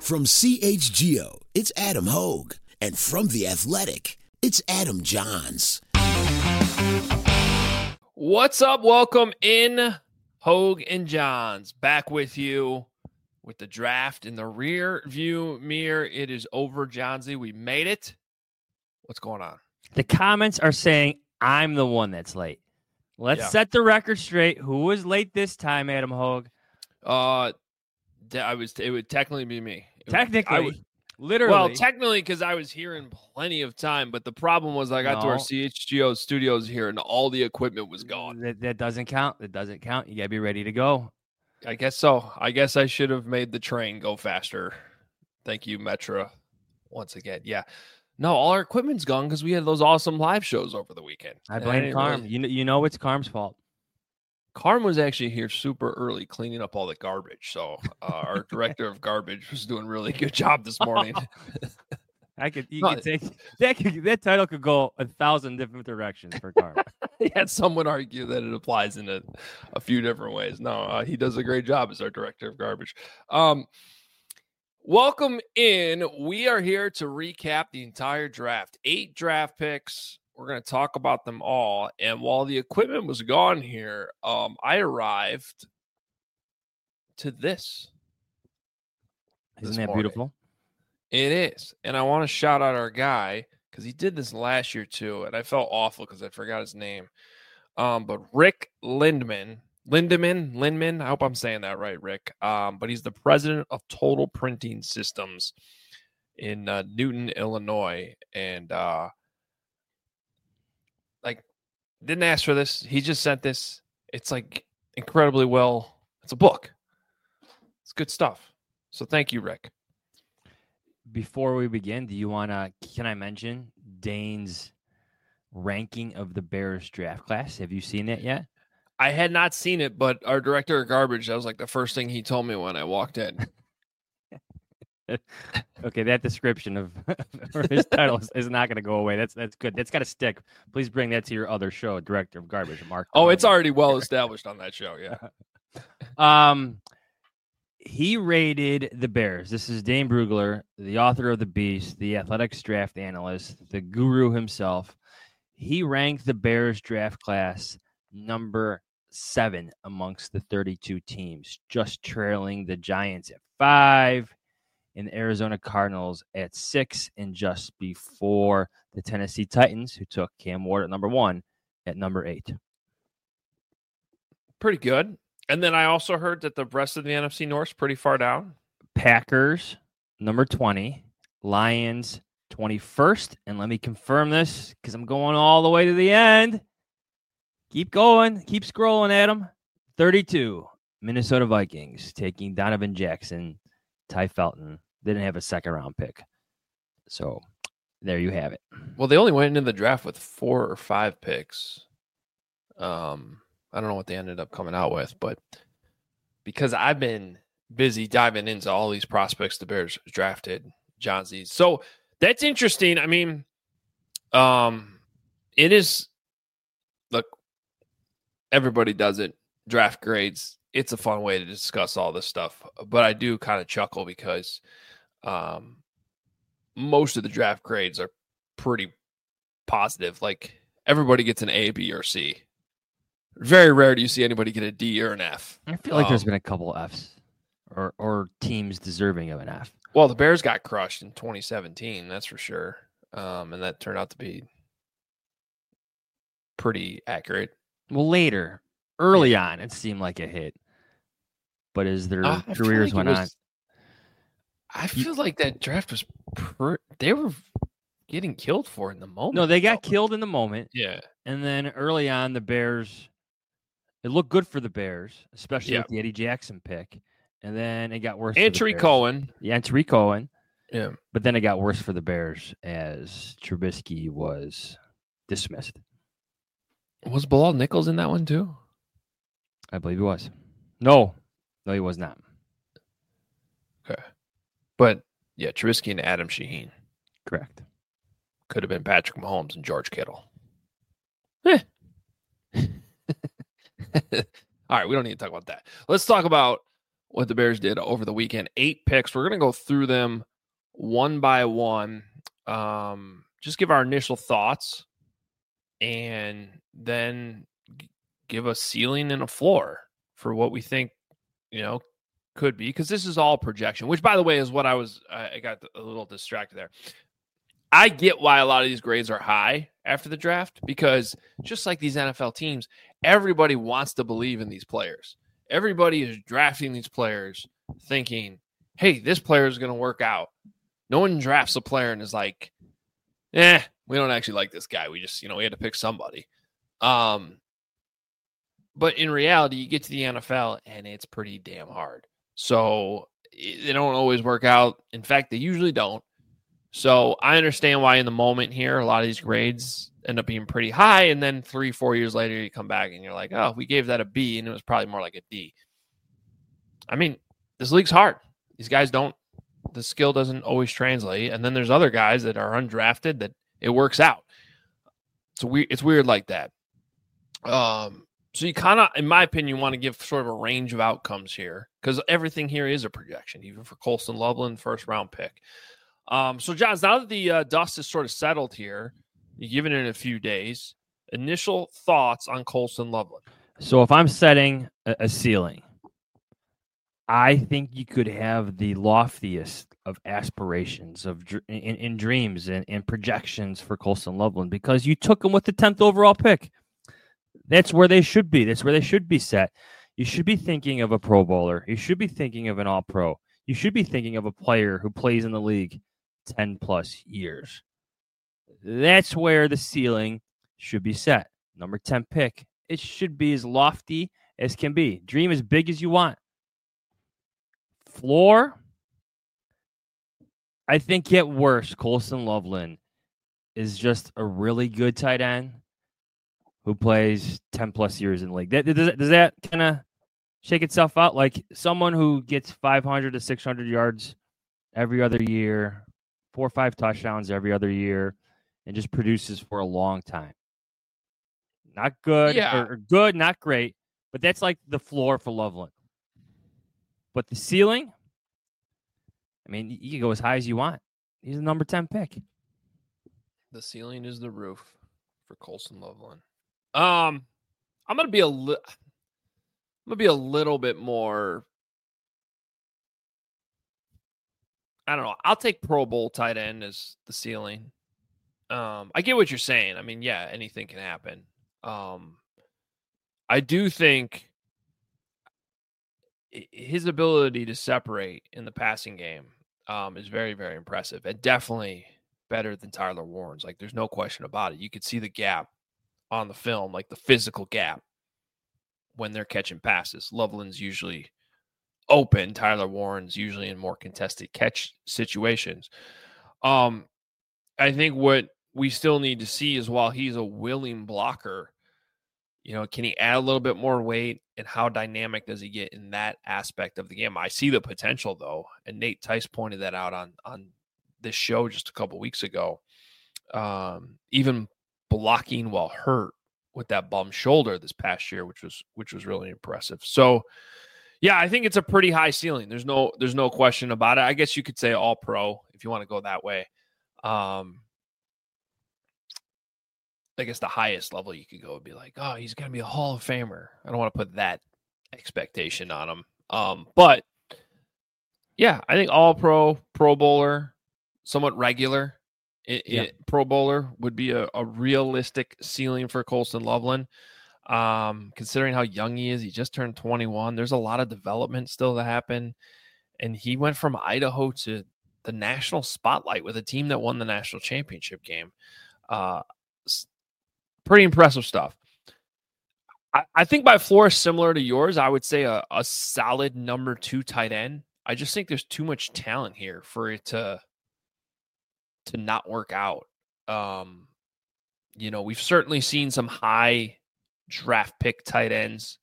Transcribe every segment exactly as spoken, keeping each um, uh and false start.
From C H G O, it's Adam Hogue. And from The Athletic, it's Adam Johns. What's up? Welcome in, Hogue and Johns. Back with you with the draft in the rear view mirror. It is over, Johnsy. We made it. What's going on? The comments are saying I'm the one that's late. Let's Yeah. set the record straight. Who was late this time, Adam Hogue? Uh, I was. It would technically be me. It Technically, would, I would, literally. Well, technically, because I was here in plenty of time. But the problem was, I got No. to our C H G O studios here, and all the equipment was gone. That, that doesn't count. That doesn't count. You gotta be ready to go. I guess so. I guess I should have made the train go faster. Thank you, Metra. Once again, yeah. No, all our equipment's gone because we had those awesome live shows over the weekend. I And blame didn't Carm. really- You know, you know it's Carm's fault. Carm was actually here super early cleaning up all the garbage. So uh, our director of garbage was doing a really good job this morning. I could, you No, could take that. Could, that title could go a thousand different directions for Carm. Yeah, some would argue that it applies in a, a few different ways. No, uh, he does a great job as our director of garbage. Um, welcome in. We are here to recap the entire draft. Eight draft picks. We're going to talk about them all. And while the equipment was gone here, um, I arrived to this. Isn't this that morning. beautiful? It is. And I want to shout out our guy because he did this last year too. And I felt awful because I forgot his name. Um, but Rick Lindman, Lindemann, Lindman, I hope I'm saying that right, Rick. Um, but he's the president of Total Printing Systems in uh, Newton, Illinois. And uh, like, didn't ask for this. He just sent this. It's like incredibly well. It's a book. It's good stuff. So thank you, Rick. Before we begin, do you want to? Can I mention Dane's ranking of the Bears draft class? Have you seen it yet? I had not seen it, but our director of garbage, that was like the first thing he told me when I walked in. Okay, that description of or his title is, is not going to go away. That's that's good. That's got to stick. Please bring that to your other show, Director of Garbage, Mark. Oh, it's already well established on that show. Yeah. Um, he rated the Bears. This is Dane Brugler, the author of The Beast, the athletics draft analyst, the guru himself. He ranked the Bears draft class number seven amongst the thirty-two teams, just trailing the Giants at five and the Arizona Cardinals at six, and just before the Tennessee Titans, who took Cam Ward at number one, at number eight. Pretty good. And then I also heard that the rest of the N F C North is pretty far down. Packers, number twenty. Lions, twenty-first. And let me confirm this because I'm going all the way to the end. Keep going. Keep scrolling, Adam. thirty-two. Minnesota Vikings taking Donovan Jackson, Ty Felton. They didn't have a second round pick. So there you have it. Well, they only went into the draft with four or five picks. Um, I don't know what they ended up coming out with, but because I've been busy diving into all these prospects the Bears drafted, Johnsy. So that's interesting. I mean, um, it is, look, everybody does it. Draft grades. It's a fun way to discuss all this stuff, but I do kind of chuckle because um, most of the draft grades are pretty positive. Like everybody gets an A, B, or C. Very rare do you see anybody get a D or an F. I feel like um, there's been a couple Fs or or teams deserving of an F. Well, the Bears got crushed in twenty seventeen, that's for sure. Um, and that turned out to be pretty accurate. Well, later, early on, it seemed like a hit. But as their Uh, I feel careers like it went was- on, I feel like that draft was per- they were getting killed for in the moment. no, they got though. killed in the moment. Yeah. And then early on, the Bears, it looked good for the Bears, especially Yeah. with the Eddie Jackson pick. And then it got worse. And for the Tariq Bears. Cohen. Yeah, and Tariq Cohen. Yeah. But then it got worse for the Bears as Trubisky was dismissed. Was Bilal Nichols in that one too? I believe he was. No, no, he was not. Okay. But yeah, Trubisky and Adam Shaheen. Correct. Could have been Patrick Mahomes and George Kittle. Eh. All right, we don't need to talk about that. Let's talk about what the Bears did over the weekend. Eight picks. We're going to go through them one by one. Um, just give our initial thoughts and then g- give a ceiling and a floor for what we think, you know, could be. Because this is all projection, which, by the way, is what I was, I got a little distracted there. I get why a lot of these grades are high after the draft, because just like these N F L teams, everybody wants to believe in these players. Everybody is drafting these players thinking, hey, this player is going to work out. No one drafts a player and is like, eh, we don't actually like this guy. We just, you know, we had to pick somebody. Um, but in reality, you get to the N F L and it's pretty damn hard. So they don't always work out. In fact, they usually don't. So I understand why in the moment here, a lot of these grades end up being pretty high. And then three, four years later, you come back and you're like, oh, we gave that a B, and it was probably more like a D. I mean, this league's hard. These guys don't, the skill doesn't always translate. And then there's other guys that are undrafted that it works out. It's weird. It's weird like that. Um, so you kind of, in my opinion, want to give sort of a range of outcomes here, because everything here is a projection, even for Colston Loveland, first round pick. Um, so, Johns, now that the uh, dust is sort of settled here, you're giving it a few days, initial thoughts on Colston Loveland. So if I'm setting a, a ceiling, I think you could have the loftiest of aspirations of in, in dreams and, and projections for Colston Loveland, because you took him with the tenth overall pick. That's where they should be. That's where they should be set. You should be thinking of a Pro Bowler. You should be thinking of an All-Pro. You should be thinking of a player who plays in the league ten plus years. That's where the ceiling should be set. Number ten pick. It should be as lofty as can be. Dream as big as you want. Floor, I think, get worse. Colston Loveland is just a really good tight end who plays ten plus years in the league. That, does, does that kind of shake itself out? Like someone who gets five hundred to six hundred yards every other year, four or five touchdowns every other year, and just produces for a long time. Not good, Yeah. or, or good, not great, but that's like the floor for Loveland. But the ceiling, I mean, you can go as high as you want. He's a number ten pick. The ceiling is the roof for Colston Loveland. Um, I'm gonna be a li- I'm gonna be a little bit more. I don't know. I'll take Pro Bowl tight end as the ceiling. Um, I get what you're saying. I mean, yeah, anything can happen. Um, I do think his ability to separate in the passing game um, is very, very impressive, and definitely better than Tyler Warren's. Like, there's no question about it. You could see the gap on the film, like the physical gap when they're catching passes. Loveland's usually open. Tyler Warren's usually in more contested catch situations. Um, I think what we still need to see is, while he's a willing blocker, you know, can he add a little bit more weight, and how dynamic does he get in that aspect of the game? I see the potential, though, and Nate Tice pointed that out on on this show just a couple weeks ago. Um, even blocking while hurt with that bum shoulder this past year, which was which was really impressive. So, yeah, I think it's a pretty high ceiling. There's no there's no question about it. I guess you could say all pro if you want to go that way. Um, I guess the highest level you could go would be like, oh, he's going to be a Hall of Famer. I don't want to put that expectation on him. Um, but, yeah, I think all pro, Pro Bowler, somewhat regular. It, Yeah. it, Pro Bowler would be a, a realistic ceiling for Colston Loveland. Um, considering how young he is, he just turned twenty-one. There's a lot of development still to happen. And he went from Idaho to the national spotlight with a team that won the national championship game. Uh, pretty impressive stuff. I, I think my floor is similar to yours. I would say a, a solid number two tight end. I just think there's too much talent here for it to, to not work out. Um, you know, we've certainly seen some high draft pick tight ends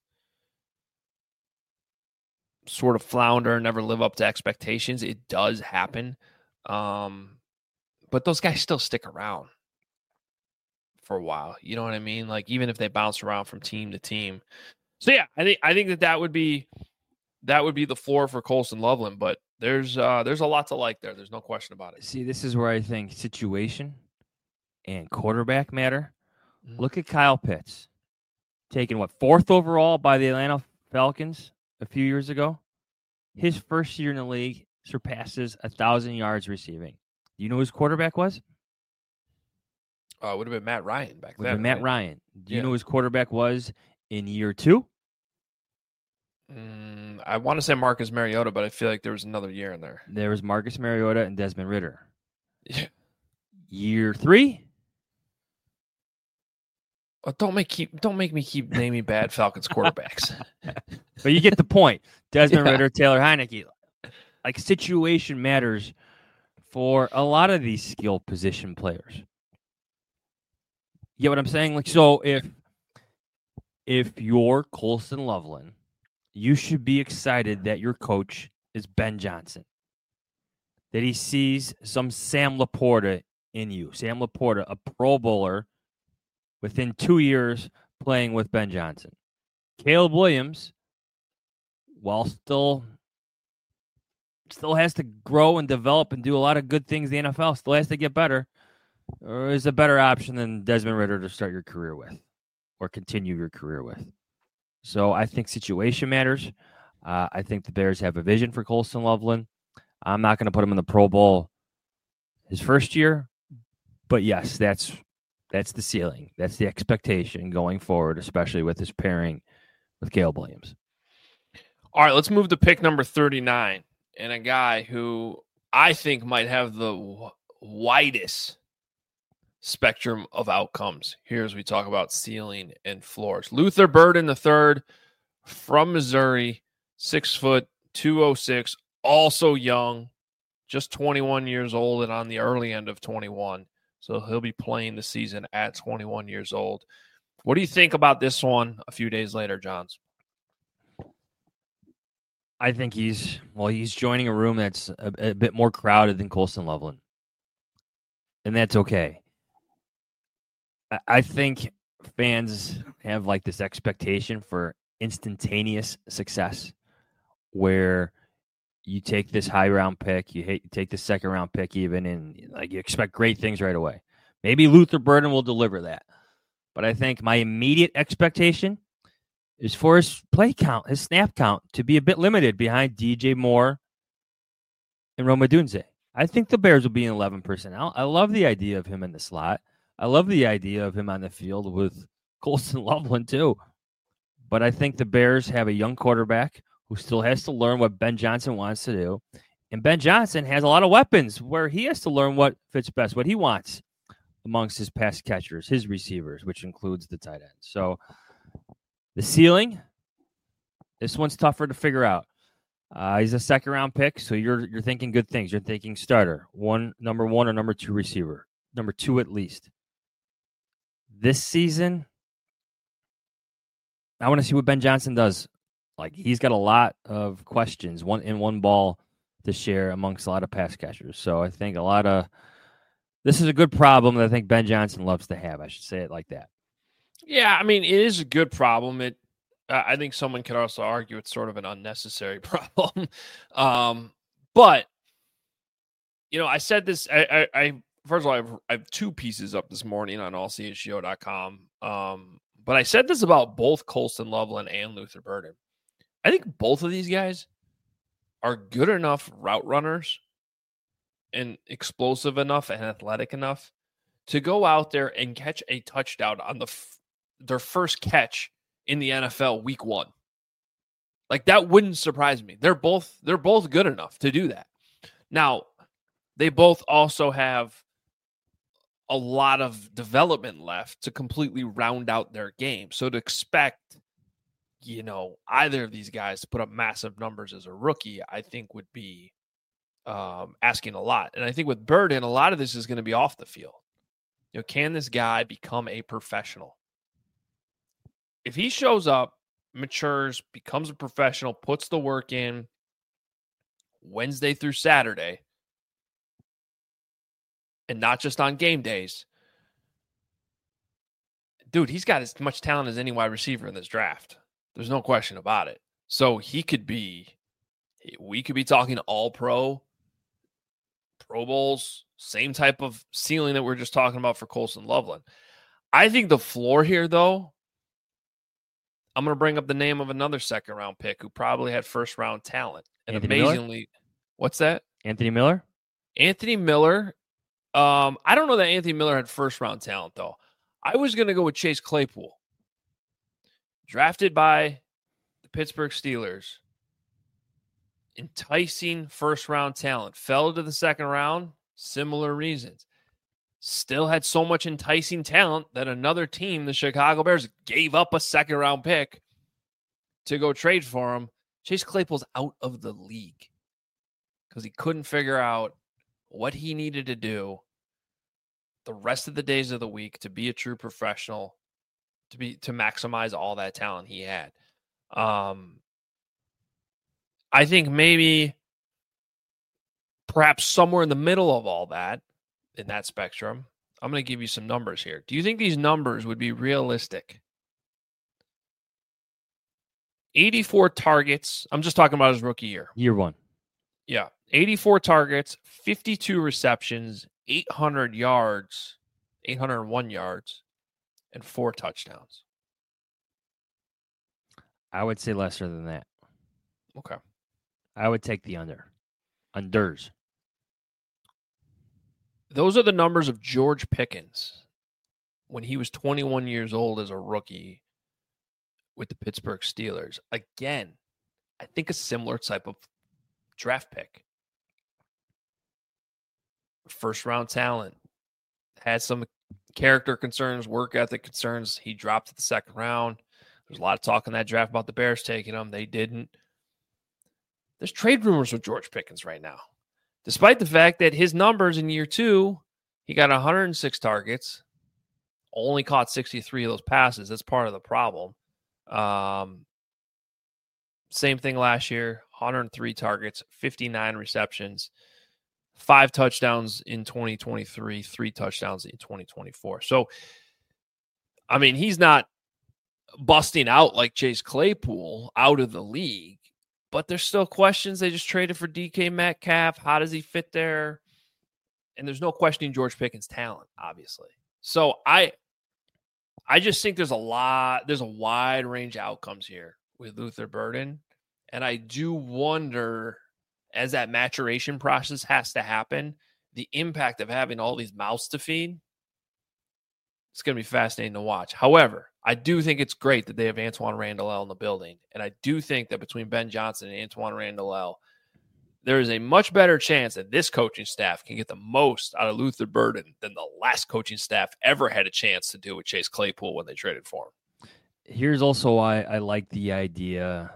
sort of flounder, never live up to expectations. It does happen. Um, but those guys still stick around for a while. You know what I mean? Like, even if they bounce around from team to team. So yeah, I think, I think that that would be that would be the floor for Colston Loveland. But there's uh, there's a lot to like there. There's no question about it. See, this is where I think situation and quarterback matter. Mhm. Look at Kyle Pitts, taken, what, fourth overall by the Atlanta Falcons a few years ago. His first year in the league surpasses one thousand yards receiving. Do you know who his quarterback was? Uh, it would have been Matt Ryan back Would then. have been Matt right? Ryan. Do you Yeah. know who his quarterback was in year two? Mm, I want to say Marcus Mariota, but I feel like there was another year in there. There was Marcus Mariota and Desmond Ridder. Yeah. Year three? Oh, don't make keep don't make me keep naming bad Falcons quarterbacks. But you get the point. Desmond Yeah. Ridder, Taylor Heineke. Like, situation matters for a lot of these skill position players. You get what I'm saying? Like, so if if you're Colston Loveland, you should be excited that your coach is Ben Johnson. That he sees some Sam Laporta in you. Sam Laporta, a Pro Bowler, within two years playing with Ben Johnson. Caleb Williams, while still still has to grow and develop and do a lot of good things in the N F L, still has to get better, or is a better option than Desmond Ridder to start your career with or continue your career with. So I think situation matters. Uh, I think the Bears have a vision for Colston Loveland. I'm not going to put him in the Pro Bowl his first year, but yes, that's that's the ceiling. That's the expectation going forward, especially with his pairing with Caleb Williams. All right, let's move to pick number thirty-nine, and a guy who I think might have the w- widest spectrum of outcomes here as we talk about ceiling and floors. Luther Burden the third from Missouri, six foot, two oh six, also young, just twenty-one years old and on the early end of twenty-one. So he'll be playing the season at twenty-one years old. What do you think about this one a few days later, Johns? I think he's, well, he's joining a room that's a, a bit more crowded than Colston Loveland. And that's okay. I, I think fans have like this expectation for instantaneous success where you take this high round pick, you, hate, you take the second round pick even, and like you expect great things right away. Maybe Luther Burden will deliver that. But I think my immediate expectation is for his play count, his snap count, to be a bit limited behind D J Moore and Rome Odunze. I think the Bears will be in eleven personnel. I love the idea of him in the slot. I love the idea of him on the field with Colston Loveland too. But I think the Bears have a young quarterback who still has to learn what Ben Johnson wants to do. And Ben Johnson has a lot of weapons where he has to learn what fits best, what he wants amongst his pass catchers, his receivers, which includes the tight end. So the ceiling, this one's tougher to figure out. Uh, he's a second round pick, so you're you're thinking good things. You're thinking starter, one number one or number two receiver, number two at least. This season, I want to see what Ben Johnson does. Like, he's got a lot of questions, one in one ball to share amongst a lot of pass catchers. So I think a lot of this is a good problem that I think Ben Johnson loves to have. I should say it like that. Yeah, I mean, it is a good problem. It, uh, I think someone could also argue it's sort of an unnecessary problem. um, but, you know, I said this, I, I, I first of all, I have, I have two pieces up this morning on all c h g o dot com. Um, but I said this about both Colston Loveland and Luther Burden. I think both of these guys are good enough route runners and explosive enough and athletic enough to go out there and catch a touchdown on the f- their first catch in the N F L week one. Like, that wouldn't surprise me. They're both they're both good enough to do that. Now, they both also have a lot of development left to completely round out their game. So to expect, you know, either of these guys to put up massive numbers as a rookie, I think would be um, asking a lot. And I think with Burden, a lot of this is going to be off the field. You know, can this guy become a professional? If he shows up, matures, becomes a professional, puts the work in Wednesday through Saturday, and not just on game days, dude, he's got as much talent as any wide receiver in this draft. There's no question about it. So he could be, we could be talking all pro, Pro Bowls, same type of ceiling that we're just talking about for Colston Loveland. I think the floor here, though, I'm going to bring up the name of another second round pick who probably had first round talent. And Anthony amazingly, Miller? What's that? Anthony Miller? Anthony Miller. Um, I don't know that Anthony Miller had first round talent, though. I was going to go with Chase Claypool. Drafted by the Pittsburgh Steelers. Enticing first round talent. Fell to the second round. Similar reasons. Still had so much enticing talent that another team, the Chicago Bears, gave up a second round pick to go trade for him. Chase Claypool's out of the league because he couldn't figure out what he needed to do the rest of the days of the week to be a true professional, to be to maximize all that talent he had. Um, I think maybe perhaps somewhere in the middle of all that, in that spectrum, I'm going to give you some numbers here. Do you think these numbers would be realistic? eighty-four targets. I'm just talking about his rookie year. Year one. Yeah. eighty-four targets, fifty-two receptions, eight hundred yards, eight hundred one yards, and four touchdowns. I would say lesser than that. Okay. I would take the under. Unders. Those are the numbers of George Pickens when he was twenty-one years old as a rookie with the Pittsburgh Steelers. Again, I think a similar type of draft pick. First round talent. Had some character concerns, work ethic concerns. He dropped to the second round. There's a lot of talk in that draft about the Bears taking him. They didn't. There's trade rumors with George Pickens right now. Despite the fact that his numbers in year two, he got one hundred six targets, only caught sixty-three of those passes. That's part of the problem. Um, same thing last year, one hundred three targets, fifty-nine receptions, five touchdowns in twenty twenty-three, three touchdowns in twenty twenty-four. So, I mean, he's not busting out like Chase Claypool out of the league, but there's still questions. They just traded for D K Metcalf. How does he fit there? And there's no questioning George Pickens' talent, obviously. So I I just think there's a lot, there's a wide range of outcomes here with Luther Burden. And I do wonder, as that maturation process has to happen, the impact of having all these mouths to feed. It's going to be fascinating to watch. However, I do think it's great that they have Antoine Randall in the building. And I do think that between Ben Johnson and Antoine Randall, there is a much better chance that this coaching staff can get the most out of Luther Burden than the last coaching staff ever had a chance to do with Chase Claypool when they traded for him. Here's also why I like the idea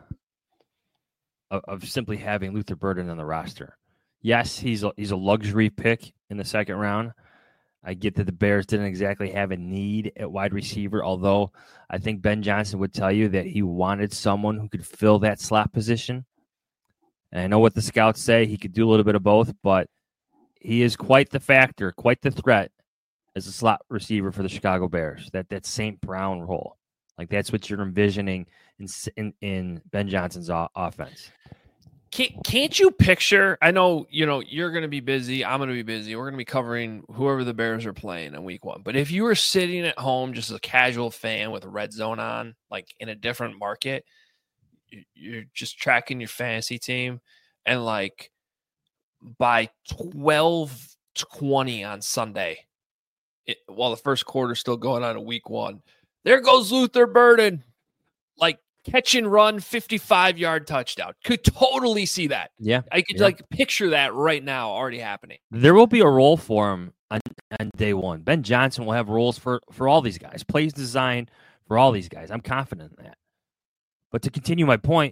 of, of simply having Luther Burden on the roster. Yes, he's a, he's a luxury pick in the second round. I get that the Bears didn't exactly have a need at wide receiver, although I think Ben Johnson would tell you that he wanted someone who could fill that slot position. And I know what the scouts say. He could do a little bit of both, but he is quite the factor, quite the threat as a slot receiver for the Chicago Bears. That that Saint Brown role, like that's what you're envisioning in in, in Ben Johnson's o- offense. Can't, can't you picture? I know you know you're going to be busy. I'm going to be busy. We're going to be covering whoever the Bears are playing in week one. But if you were sitting at home just as a casual fan with a Red Zone on, like in a different market, you're just tracking your fantasy team, and like by twelve twenty on Sunday, it, while the first quarter's still going on in week one, there goes Luther Burden, like catch and run, fifty-five yard touchdown. Could totally see that. Yeah. I could yeah. like picture that right now already happening. There will be a role for him on, on day one. Ben Johnson will have roles for, for all these guys, plays designed for all these guys. I'm confident in that. But to continue my point,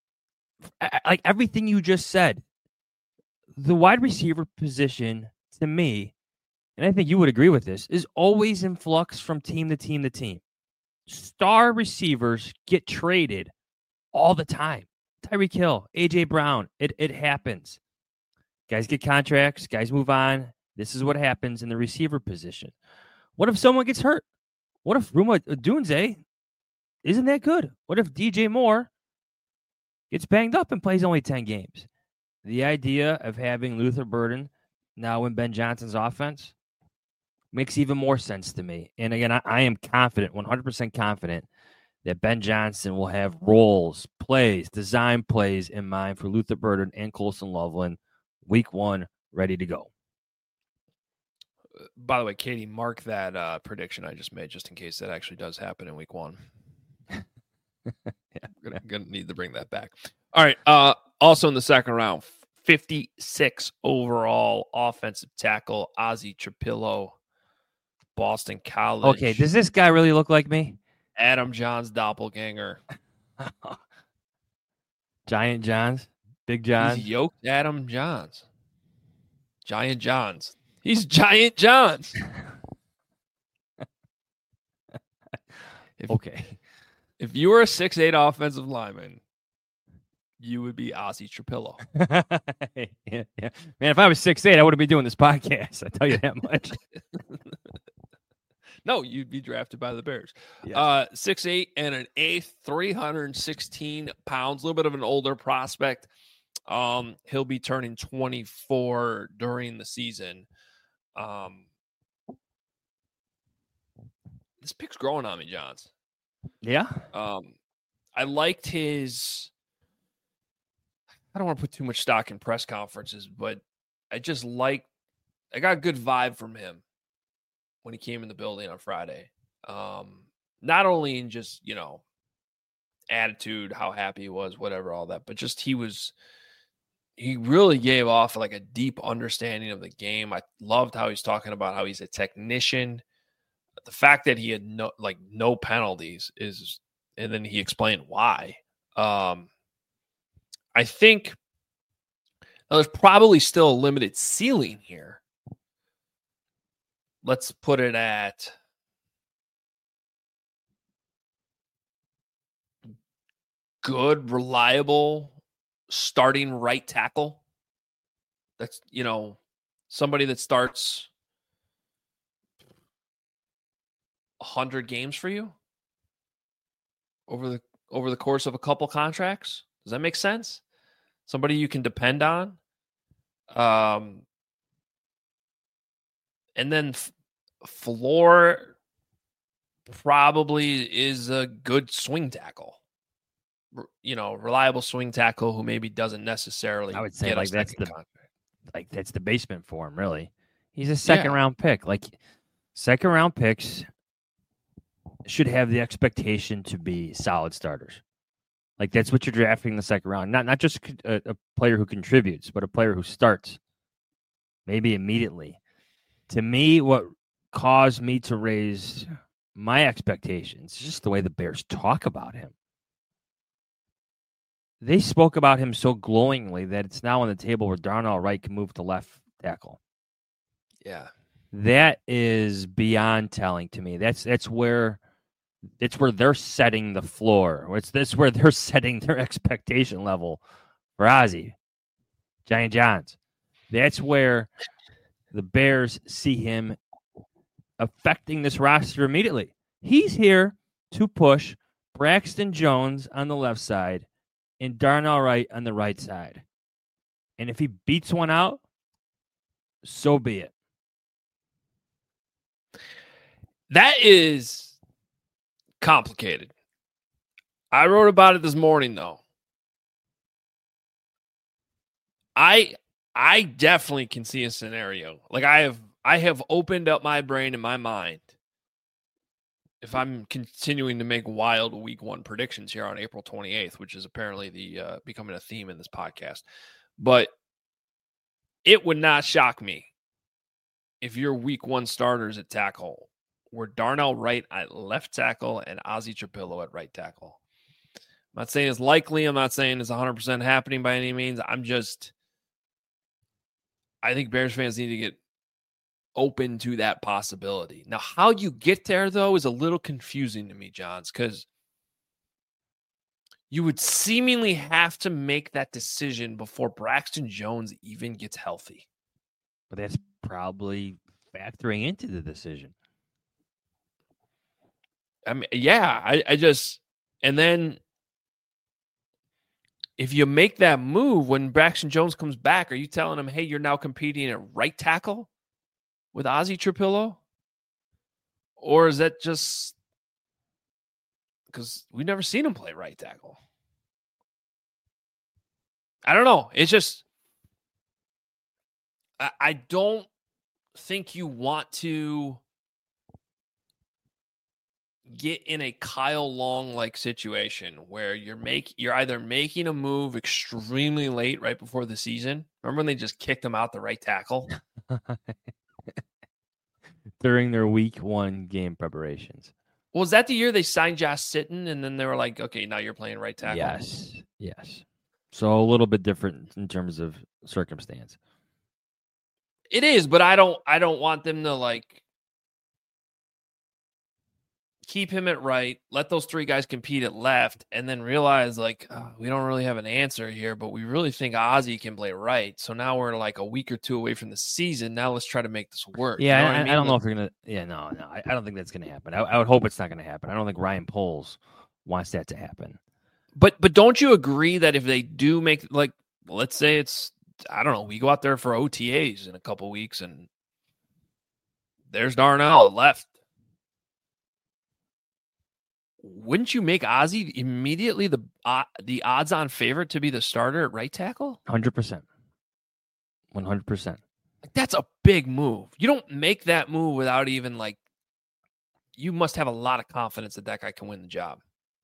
like everything you just said, the wide receiver position to me, and I think you would agree with this, is always in flux from team to team to team. Star receivers get traded all the time. Tyreek Hill, A J Brown, it, it happens. Guys get contracts, guys move on. This is what happens in the receiver position. What if someone gets hurt? What if Ruma Odunze isn't that good? What if D J Moore gets banged up and plays only ten games. The idea of having Luther Burden now in Ben Johnson's offense makes even more sense to me. And again, I, I am confident, one hundred percent confident, that Ben Johnson will have roles, plays, design plays in mind for Luther Burden and Colson Loveland week one, ready to go. By the way, Katie, mark that uh, prediction I just made just in case that actually does happen in week one. Yeah, I'm going to need to bring that back. All right. Uh, also in the second round, fifty-six overall offensive tackle, Ozzie Trapilo, Boston College. Okay, does this guy really look like me? Adam Johns' doppelganger. Giant Johns? Big John? He's yoked Adam Johns. Giant Johns. He's Giant Johns. if, okay. If you were a six eight offensive lineman, you would be Ozzie Trapilo. yeah, yeah. Man, if I was six eight, I wouldn't be doing this podcast. I tell you that much. No, you'd be drafted by the Bears. Yes. Uh, six eight and an eighth, three hundred sixteen pounds, a little bit of an older prospect. Um, he'll be turning twenty-four during the season. Um, this pick's growing on me, Johns. Yeah. Um, I liked his. I don't want to put too much stock in press conferences, but I just like. I got a good vibe from him when he came in the building on Friday. Um, not only in just, you know, attitude, how happy he was, whatever, all that, but just he was, he really gave off like a deep understanding of the game. I loved how he's talking about how he's a technician. The fact that he had no, like no penalties is, and then he explained why. Um, I think now there's probably still a limited ceiling here. Let's put it at good, reliable, starting right tackle. That's, you know, somebody that starts one hundred games for you over the over the course of a couple contracts. Does that make sense? Somebody you can depend on. Um, and then f- floor probably is a good swing tackle. You know, reliable swing tackle who maybe doesn't necessarily. I would say get like that's the contract. like that's the basement for him. Really, he's a second Yeah. round pick. Like second round picks should have the expectation to be solid starters. Like that's what you're drafting in the second round. Not not just a, a player who contributes, but a player who starts maybe immediately. To me, what caused me to raise my expectations is just the way the Bears talk about him. They spoke about him so glowingly that it's now on the table where Darnell Wright can move to left tackle. Yeah. That is beyond telling to me. That's that's where it's where they're setting the floor. It's this where they're setting their expectation level for Ozzie, Giant Johns. That's where the Bears see him affecting this roster immediately. He's here to push Braxton Jones on the left side and Darnell Wright on the right side. And if he beats one out, so be it. That is complicated. I wrote about it this morning, though. I I definitely can see a scenario. Like I have I have opened up my brain and my mind. If I'm continuing to make wild week one predictions here on April twenty-eighth, which is apparently the uh, becoming a theme in this podcast, but it would not shock me if your week one starters at tackle were Darnell Wright at left tackle and Ozzie Trapilo at right tackle. I'm not saying it's likely. I'm not saying it's one hundred percent happening by any means. I'm just, I think Bears fans need to get open to that possibility. Now, how you get there, though, is a little confusing to me, Johns, because you would seemingly have to make that decision before Braxton Jones even gets healthy. But that's probably factoring into the decision. I mean, yeah, I, I just, and then if you make that move when Braxton Jones comes back, are you telling him, hey, you're now competing at right tackle with Ozzie Trapillo? Or is that just because we've never seen him play right tackle? I don't know. It's just, I, I don't think you want to get in a Kyle Long like situation where you're make you're either making a move extremely late right before the season. Remember when they just kicked him out the right tackle during their week one game preparations? Well, was that the year they signed Josh Sitton and then they were like, okay, now you're playing right tackle? Yes, yes. So a little bit different in terms of circumstance. It is, but I don't I don't want them to like keep him at right, let those three guys compete at left, and then realize, like, oh, we don't really have an answer here, but we really think Ozzie can play right. So now we're like a week or two away from the season. Now let's try to make this work. Yeah, you know I, I, mean? I don't like, know if you're going to – yeah, no, no. I, I don't think that's going to happen. I, I would hope it's not going to happen. I don't think Ryan Poles wants that to happen. But but don't you agree that if they do make – like, let's say it's – I don't know. We go out there for O T As in a couple weeks, and there's Darnell left. Wouldn't you make Ozzie immediately the uh, the odds-on favorite to be the starter at right tackle? one hundred percent. one hundred percent. Like, that's a big move. You don't make that move without even, like, you must have a lot of confidence that that guy can win the job.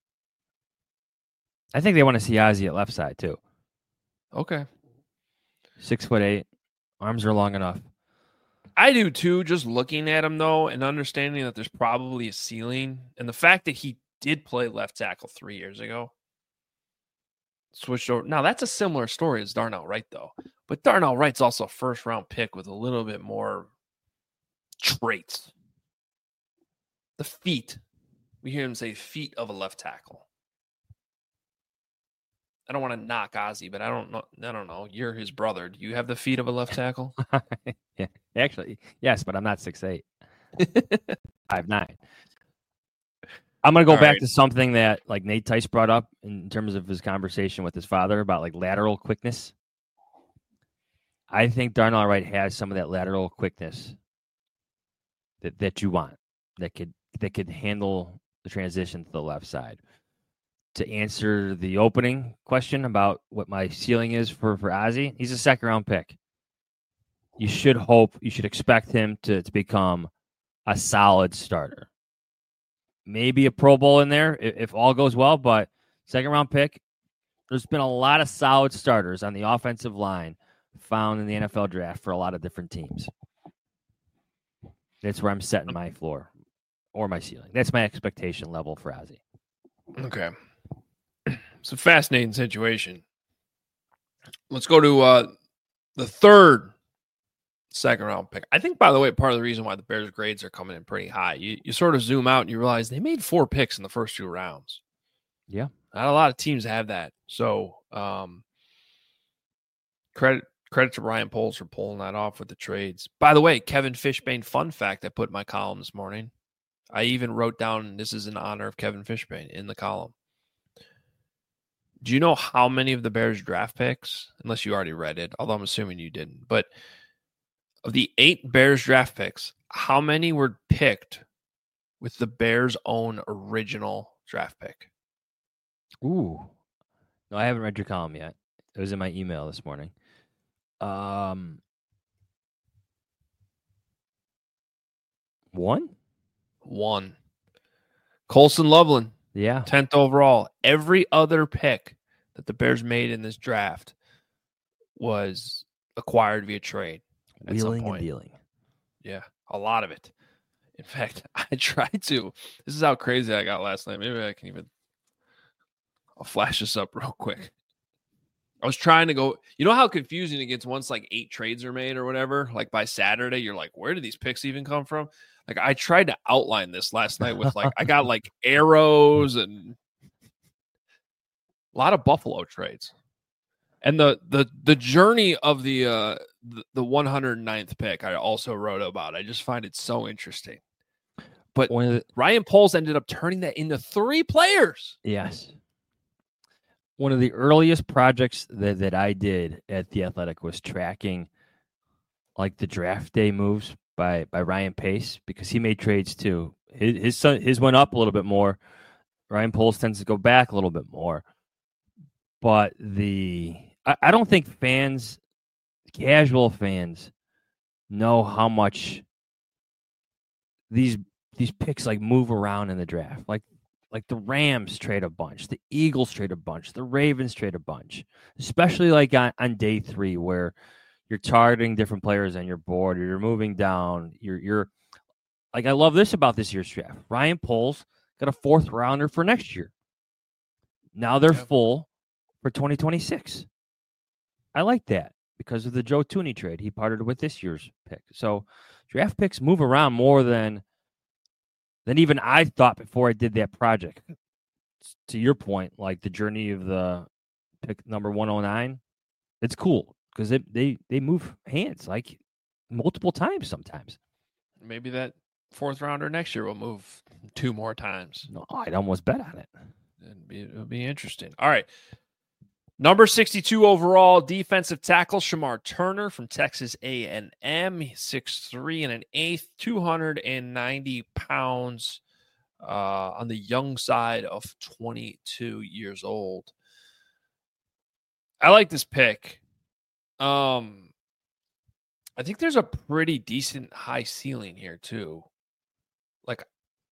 I think they want to see Ozzie at left side, too. Okay. Six foot eight. Arms are long enough. I do, too, just looking at him, though, and understanding that there's probably a ceiling. And the fact that he did play left tackle three years ago. Switched over. Now, that's a similar story as Darnell Wright, though. But Darnell Wright's also a first-round pick with a little bit more traits. The feet. We hear him say feet of a left tackle. I don't want to knock Ozzie, but I don't know. I don't know. You're his brother. Do you have the feet of a left tackle? Yeah, actually, yes, but I'm not six eight. five nine. I'm going to go All back right. to something that like Nate Tice brought up in terms of his conversation with his father about like lateral quickness. I think Darnell Wright has some of that lateral quickness that, that you want, that could that could handle the transition to the left side. To answer the opening question about what my ceiling is for, for Ozzie, he's a second round pick. You should hope, you should expect him to, to become a solid starter. Maybe a Pro Bowl in there if, if all goes well, but second round pick, there's been a lot of solid starters on the offensive line found in the N F L draft for a lot of different teams. That's where I'm setting my floor or my ceiling. That's my expectation level for Ozzie. Okay. It's a fascinating situation. Let's go to uh, the third second round pick. I think, by the way, part of the reason why the Bears grades are coming in pretty high, you, you sort of zoom out and you realize they made four picks in the first two rounds. Yeah. Not a lot of teams have that. So um, credit credit to Ryan Poles for pulling that off with the trades. By the way, Kevin Fishbane fun fact I put in my column this morning. I even wrote down, this is in honor of Kevin Fishbane in the column. Do you know how many of the Bears draft picks, unless you already read it, although I'm assuming you didn't, but of the eight Bears draft picks, how many were picked with the Bears' own original draft pick? Ooh. No, I haven't read your column yet. It was in my email this morning. Um, one? One. Colson Loveland. Yeah. tenth overall. Every other pick that the Bears made in this draft was acquired via trade. At some Wheeling and point. dealing. Yeah, a lot of it. In fact, I tried to. This is how crazy I got last night. Maybe I can even. I'll flash this up real quick. I was trying to go. You know how confusing it gets once like eight trades are made or whatever? Like by Saturday, you're like, where did these picks even come from? Like I tried to outline this last night with like, I got like arrows and a lot of Buffalo trades. And the the the journey of the uh the, the one hundred ninth pick I also wrote about. I just find it so interesting. But One of the, Ryan Poles ended up turning that into three players. yes. one of the earliest projects that, that I did at The Athletic was tracking like the draft day moves by, by Ryan Pace, because he made trades too. His his, son, his went up a little bit more. Ryan Poles tends to go back a little bit more. But the I, I don't think fans, casual fans, know how much these these picks like move around in the draft. Like like the Rams trade a bunch, the Eagles trade a bunch, the Ravens trade a bunch, especially like on, on day three where you're targeting different players on your board, or you're moving down. You're you're like, I love this about this year's draft. Ryan Poles got a fourth rounder for next year. Now they're Yep. full for twenty twenty-six. I like that because of the Joe Tooney trade. He partnered with this year's pick. So draft picks move around more than than even I thought before I did that project. To your point, like the journey of the pick number one oh nine, it's cool because they, they, they move hands like multiple times sometimes. Maybe that fourth rounder next year will move two more times. No, I'd almost bet on it. It'd be, it'll be interesting. All right. Number sixty-two overall, defensive tackle Shamar Turner from Texas A and M. six three and an eighth, two hundred ninety pounds, uh, on the young side of twenty-two years old. I like this pick. Um, I think there's a pretty decent high ceiling here too. Like,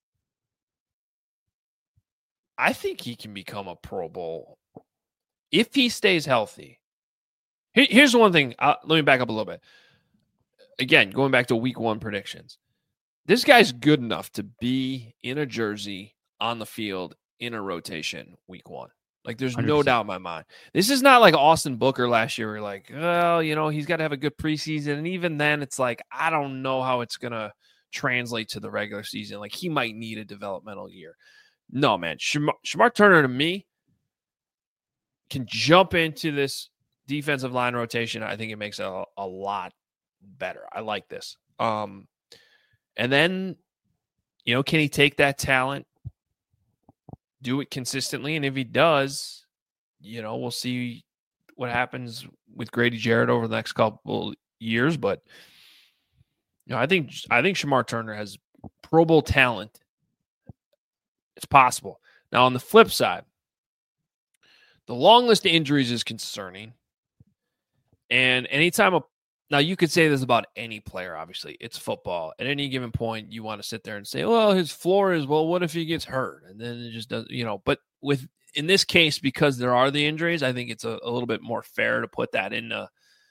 I think he can become a Pro Bowl if he stays healthy. Here, here's one thing. Uh, let me back up a little bit. Again, going back to week one predictions. This guy's good enough to be in a jersey on the field in a rotation week one. Like, there's one hundred no percent. doubt in my mind. This is not like Austin Booker last year. Where you're like, well, you know, he's got to have a good preseason. And even then, it's like, I don't know how it's going to translate to the regular season. Like, he might need a developmental year. No, man. Shamar, Shamar Turner, to me, can jump into this defensive line rotation. I think it makes it a, a lot better. I like this. Um, and then, you know, can he take that talent, do it consistently? And if he does, you know, we'll see what happens with Grady Jarrett over the next couple years. But, you know, I think, I think Shamar Turner has Pro Bowl talent. It's possible. Now, on the flip side, the long list of injuries is concerning. And anytime a now you could say this about any player, obviously. It's football. At any given point, you want to sit there and say, well, his floor is, well, what if he gets hurt? And then it just does, you know, but with in this case, because there are the injuries, I think it's a, a little bit more fair to put that into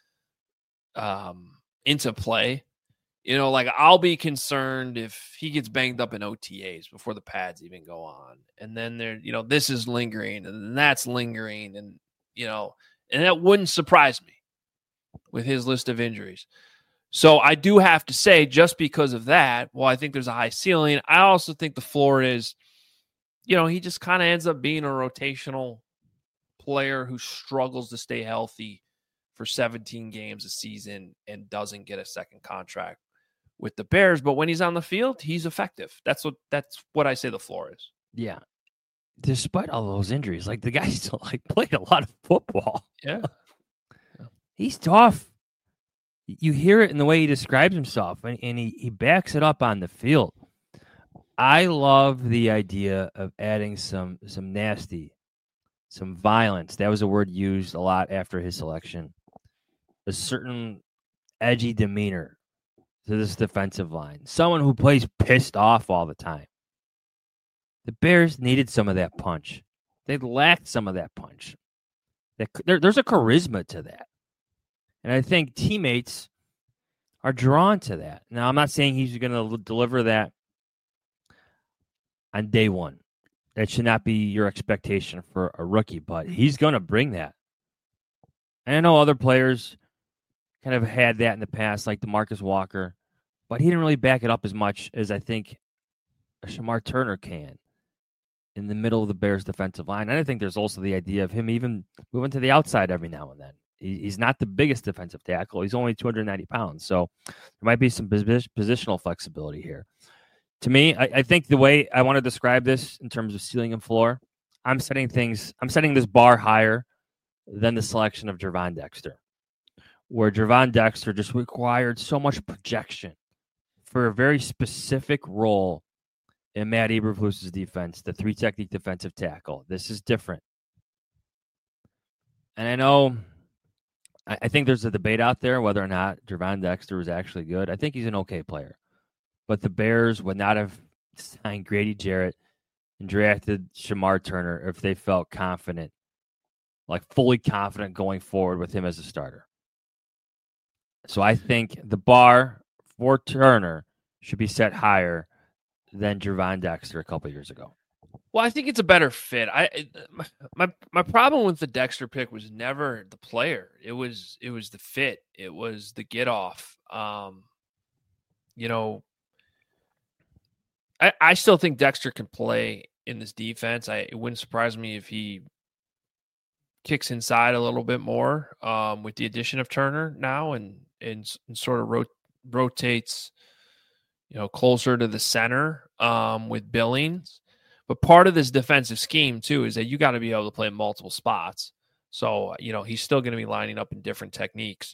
um into play. You know, like, I'll be concerned if he gets banged up in O T As before the pads even go on. And then there, you know, this is lingering and that's lingering. And, you know, and that wouldn't surprise me with his list of injuries. So I do have to say, just because of that, well, I think there's a high ceiling. I also think the floor is, you know, he just kind of ends up being a rotational player who struggles to stay healthy for seventeen games a season and doesn't get a second contract with the Bears, but when he's on the field, he's effective. That's what that's what I say the floor is. Yeah. Despite all those injuries, like the guy still like played a lot of football. Yeah. yeah. He's tough. You hear it in the way he describes himself, and, and he, he backs it up on the field. I love the idea of adding some some nasty, some violence. That was a word used a lot after his selection. A certain edgy demeanor to this defensive line. Someone who plays pissed off all the time. The Bears needed some of that punch. They lacked some of that punch. There, there's a charisma to that. And I think teammates are drawn to that. Now, I'm not saying he's going to deliver that on day one. That should not be your expectation for a rookie, but he's going to bring that. And I know other players kind of had that in the past, like DeMarcus Walker, but he didn't really back it up as much as I think Shamar Turner can in the middle of the Bears defensive line. And I think there's also the idea of him even moving to the outside every now and then. He, he's not the biggest defensive tackle. He's only two hundred ninety pounds. So there might be some positional flexibility here. To me, I, I think the way I want to describe this in terms of ceiling and floor, I'm setting things, I'm setting this bar higher than the selection of Gervon Dexter, where Gervon Dexter just required so much projection for a very specific role in Matt Eberflus's defense, the three technique defensive tackle. This is different. And I know, I, I think there's a debate out there whether or not Gervon Dexter was actually good. I think he's an okay player. But the Bears would not have signed Grady Jarrett and drafted Shamar Turner if they felt confident, like fully confident going forward with him as a starter. So I think the bar for Turner should be set higher than Gervon Dexter a couple years ago. Well, I think it's a better fit. I my my problem with the Dexter pick was never the player. It was it was the fit. It was the get off. Um, you know, I, I still think Dexter can play in this defense. I it wouldn't surprise me if he kicks inside a little bit more um, with the addition of Turner now, and and, and sort of rot- rotates, you know, closer to the center um, with Billings. But part of this defensive scheme, too, is that you got to be able to play in multiple spots. So, you know, he's still going to be lining up in different techniques.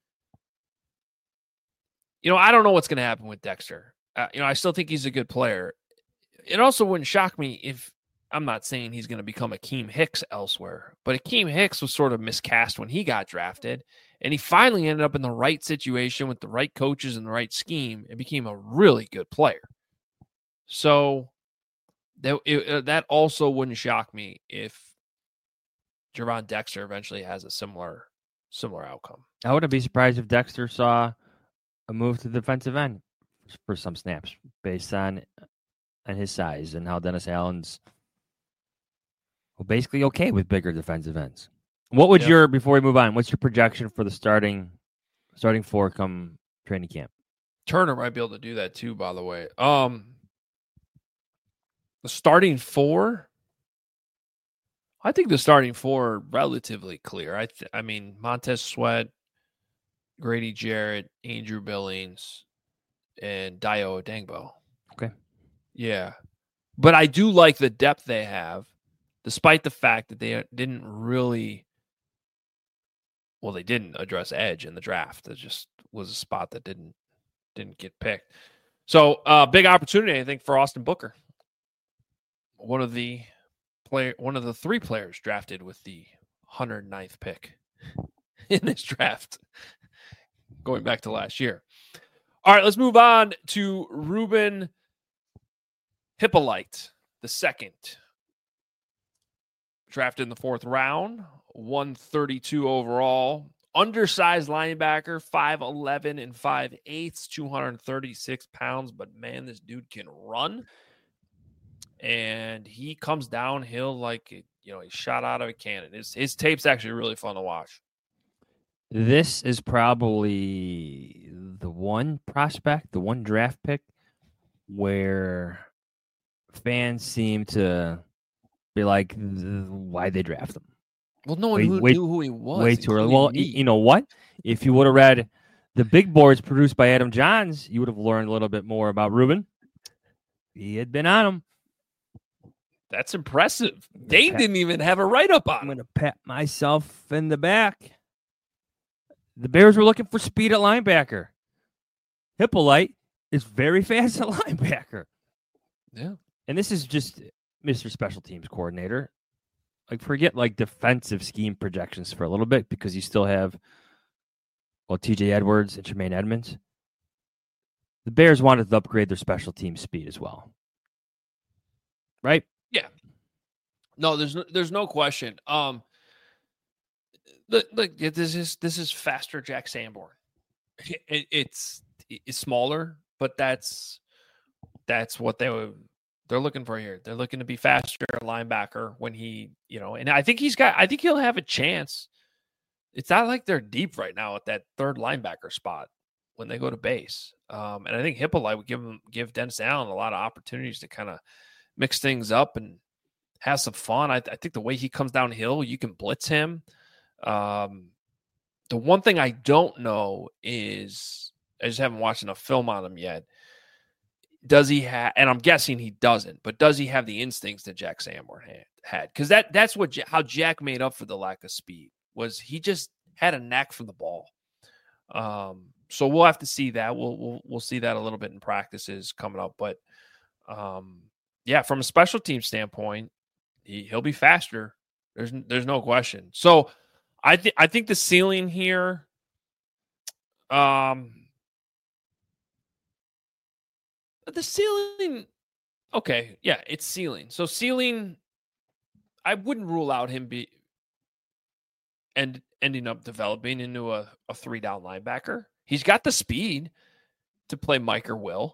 You know, I don't know what's going to happen with Dexter. Uh, you know, I still think he's a good player. It also wouldn't shock me if, I'm not saying he's going to become Akeem Hicks elsewhere, but Akeem Hicks was sort of miscast when he got drafted, and he finally ended up in the right situation with the right coaches and the right scheme and became a really good player. So that it, that also wouldn't shock me if Gervon Dexter eventually has a similar similar outcome. I wouldn't be surprised if Dexter saw a move to the defensive end for some snaps based on, on his size and how Dennis Allen's well, basically okay with bigger defensive ends. What would yep. your, before we move on, what's your projection for the starting starting four come training camp? Turner might be able to do that too, by the way. Um, the starting four, I think the starting four are relatively clear. I th- I mean, Montez Sweat, Grady Jarrett, Andrew Billings, and Dayo Odengbo. Okay. Yeah. But I do like the depth they have, despite the fact that they didn't really, well, they didn't address edge in the draft. It just was a spot that didn't didn't get picked. So, uh, big opportunity, I think, for Austin Booker. One of the player, one of the three players drafted with the one hundred ninth pick in this draft, going back to last year. All right, let's move on to Ruben Hippolyte, the second. Drafted in the fourth round, one thirty-two overall. Undersized linebacker, five eleven and five eighths, two hundred thirty-six pounds. But, man, this dude can run. And he comes downhill like, you know, he shot out of a cannon. His, his tape's actually really fun to watch. This is probably the one prospect, the one draft pick where fans seem to be like, why'd they draft him? Well, no one wait, who wait, knew who he was. Way too early. Well, me. You know what? If you would have read the big boards produced by Adam Johns, you would have learned a little bit more about Ruben. He had been on him. That's impressive. They didn't even have a write-up on him. I'm going to pat myself in the back. The Bears were looking for speed at linebacker. Hippolyte is very fast at linebacker. Yeah. And this is just Mister Special Teams Coordinator. Like, forget, like, defensive scheme projections for a little bit because you still have, well, T J Edwards and Tremaine Edmonds. The Bears wanted to upgrade their special team speed as well. Right? Yeah. No, there's no, there's no question. Um, look, look, this is this is faster Jack Sanborn. It, it's it's smaller, but that's that's what they were they're looking for here. They're looking to be faster linebacker when he, you know, and I think he's got. I think he'll have a chance. It's not like they're deep right now at that third linebacker spot when they go to base. Um, and I think Hippolyte would give him give Dennis Allen a lot of opportunities to kind of mix things up and have some fun. I, I think the way he comes downhill, you can blitz him. Um, the one thing I don't know is I just haven't watched enough film on him yet. does he have, and I'm guessing he doesn't, but does he have the instincts that Jack Sanborn had? had? Because that, that's what how Jack made up for the lack of speed, was he just had a knack for the ball. Um, so we'll have to see that. We'll, we'll, we'll see that a little bit in practices coming up. But um, yeah, from a special team standpoint, he, he'll be faster. There's, there's no question. So I think, I think the ceiling here, um, the ceiling, okay, yeah, it's ceiling. So ceiling, I wouldn't rule out him be and ending up developing into a, a three down linebacker. He's got the speed to play Mike or Will.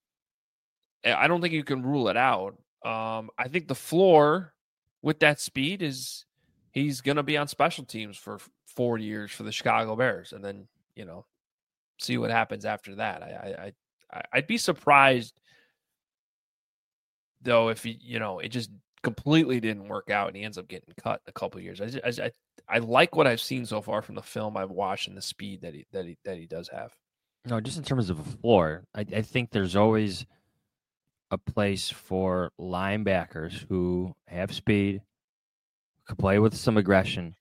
I don't think you can rule it out. Um, I think the floor with that speed is he's going to be on special teams for four years for the Chicago Bears, and then, you know, see what happens after that. I, I, I'd be surprised, though, if he, you know, it just completely didn't work out and he ends up getting cut in a couple of years. I, just, I, I like what I've seen so far from the film I've watched and the speed that he that he that he does have. No, just in terms of a floor, I, I think there's always a place for linebackers who have speed, could play with some aggression.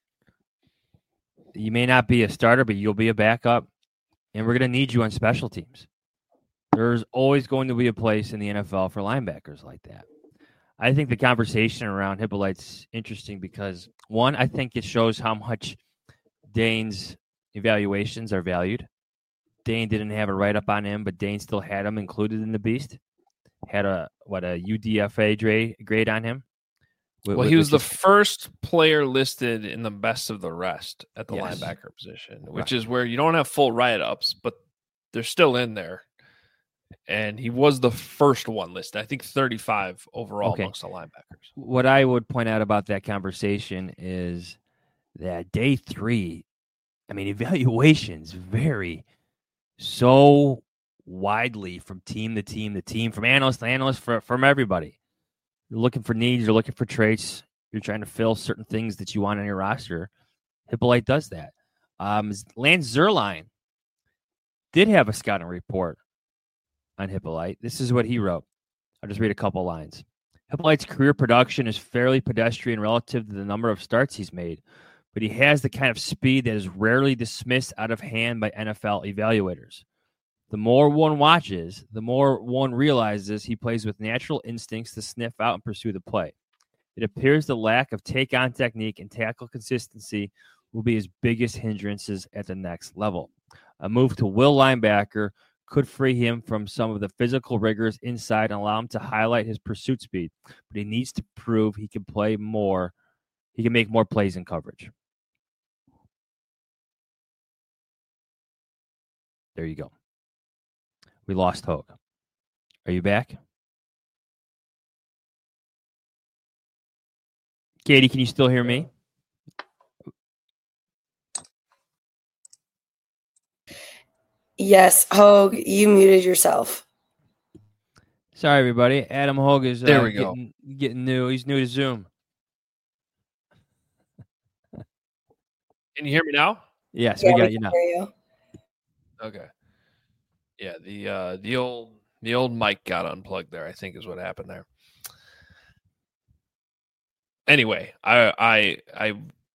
You may not be a starter, but you'll be a backup, and we're going to need you on special teams. There's always going to be a place in the N F L for linebackers like that. I think the conversation around Hippolyte's interesting because, one, I think it shows how much Dane's evaluations are valued. Dane didn't have a write-up on him, but Dane still had him included in the beast. Had a, what, a U D F A grade on him. Well, he was the first player listed in the best of the rest at the yes. linebacker position, which right. is where you don't have full write-ups, but they're still in there. And he was the first one listed, I think thirty-five overall okay. amongst the linebackers. What I would point out about that conversation is that day three, I mean, evaluations vary so widely from team to team to team, from analyst to analyst, for, from everybody. You're looking for needs, you're looking for traits, you're trying to fill certain things that you want on your roster. Hippolyte does that. Um, Lance Zierlein did have a scouting report on Hippolyte. This is what he wrote. I'll just read a couple lines. Hippolyte's career production is fairly pedestrian relative to the number of starts he's made, but he has the kind of speed that is rarely dismissed out of hand by N F L evaluators. The more one watches, the more one realizes he plays with natural instincts to sniff out and pursue the play. It appears the lack of take-on technique and tackle consistency will be his biggest hindrances at the next level. A move to will linebacker could free him from some of the physical rigors inside and allow him to highlight his pursuit speed, but he needs to prove he can play more. He can make more plays in coverage. There you go. We lost Hogue. Are you back? Katie, can you still hear me? Yes, Hogue, you muted yourself. Sorry, everybody. Adam Hogue is uh, there we getting, go. getting new. He's new to Zoom. Can you hear me now? Yes, yeah, we got we you now. You. Okay. Yeah, the uh, the old the old mic got unplugged there, I think is what happened there. Anyway, I I I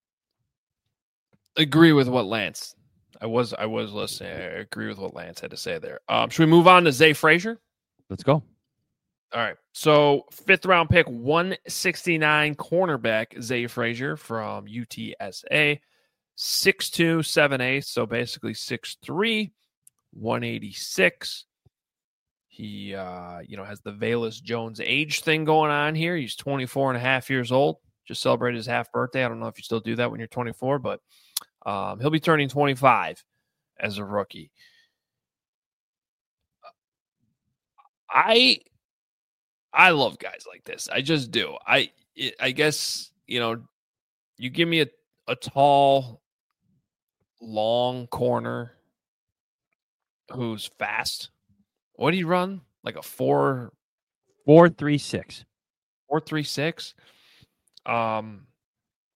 agree with what Lance. I was I was listening. I agree with what Lance had to say there. Um, should we move on to Zay Frazier? Let's go. All right. So fifth round pick, one sixty-nine cornerback Zay Frazier from U T S A, six two, seven eighths, so basically six three, one eighty-six. He, uh, you know, has the Velus Jones age thing going on here. He's twenty-four and a half years old. Just celebrated his half birthday. I don't know if you still do that when you're twenty-four, but um, he'll be turning twenty-five as a rookie. I, I love guys like this. I just do. I, I guess, you know, you give me a, a tall, long corner who's fast. What do you run? Like a four, four three six, four three six. Um,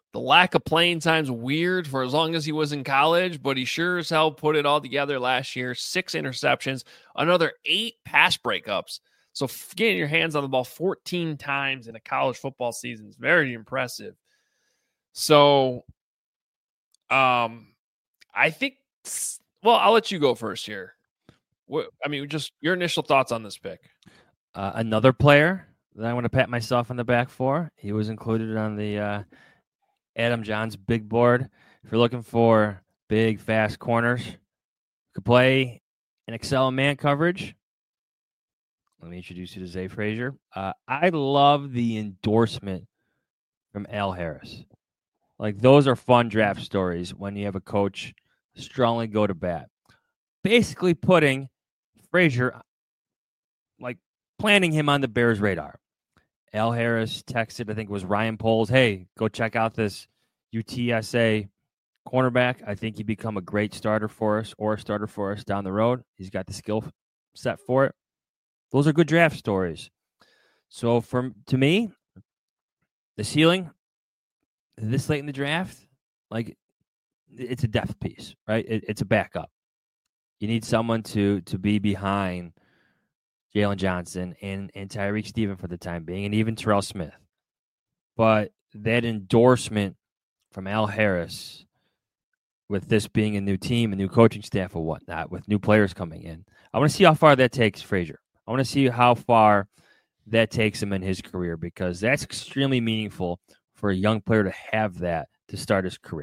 The lack of playing time's weird for as long as he was in college, but he sure as hell put it all together last year. Six interceptions, another eight pass breakups. So getting your hands on the ball fourteen times in a college football season is very impressive. So, um, I think, well, I'll let you go first here. What, I mean, just your initial thoughts on this pick. Uh, another player that I want to pat myself on the back for. He was included on the uh, Adam Johns big board. If you're looking for big, fast corners, could play and excel in man coverage. Let me introduce you to Zay Frazier. Uh, I love the endorsement from Al Harris. Like, those are fun draft stories when you have a coach strongly go to bat. Basically putting Frazier, like, planting him on the Bears' radar. Al Harris texted, I think it was Ryan Poles, hey, go check out this U T S A cornerback. I think he'd become a great starter for us or a starter for us down the road. He's got the skill set for it. Those are good draft stories. So, from to me, the ceiling this late in the draft, like, it's a depth piece, right? It, it's a backup. You need someone to to be behind Jalen Johnson and, and Tyreek Steven for the time being, and even Terrell Smith. But that endorsement from Al Harris, with this being a new team, a new coaching staff or whatnot, with new players coming in, I want to see how far that takes Frazier. I want to see how far that takes him in his career, because that's extremely meaningful for a young player to have that to start his career.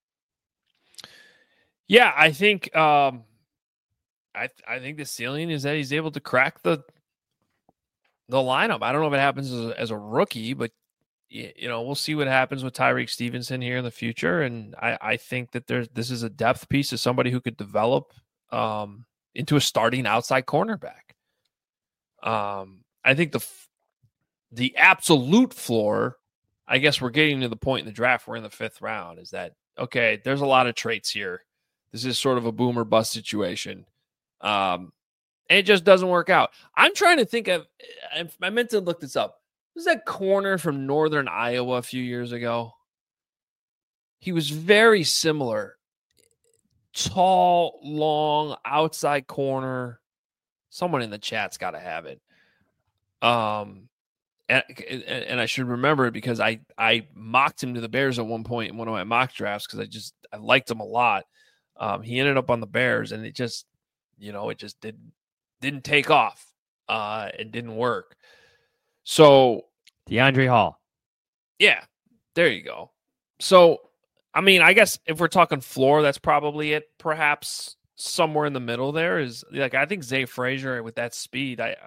Yeah, I think um, I I think the ceiling is that he's able to crack the the lineup. I don't know if it happens as a, as a rookie, but you know, we'll see what happens with Tyreek Stevenson here in the future. And I, I think that there's this is a depth piece of somebody who could develop um, into a starting outside cornerback. Um, I think the the absolute floor, I guess we're getting to the point in the draft, we're in the fifth round, is that, okay, there's a lot of traits here. This is sort of a boom or bust situation. Um, and it just doesn't work out. I'm trying to think of, I meant to look this up. Was that corner from Northern Iowa a few years ago? He was very similar. Tall, long, outside corner. Someone in the chat's got to have it. Um, and, and I should remember it because I, I mocked him to the Bears at one point in one of my mock drafts because I just I liked him a lot. Um, he ended up on the Bears, and it just, you know, it just didn't didn't take off. Uh, it didn't work. So DeAndre Hall. Yeah, there you go. So, I mean, I guess if we're talking floor, that's probably it. Perhaps somewhere in the middle there is, like, I think Zay Frazier with that speed, I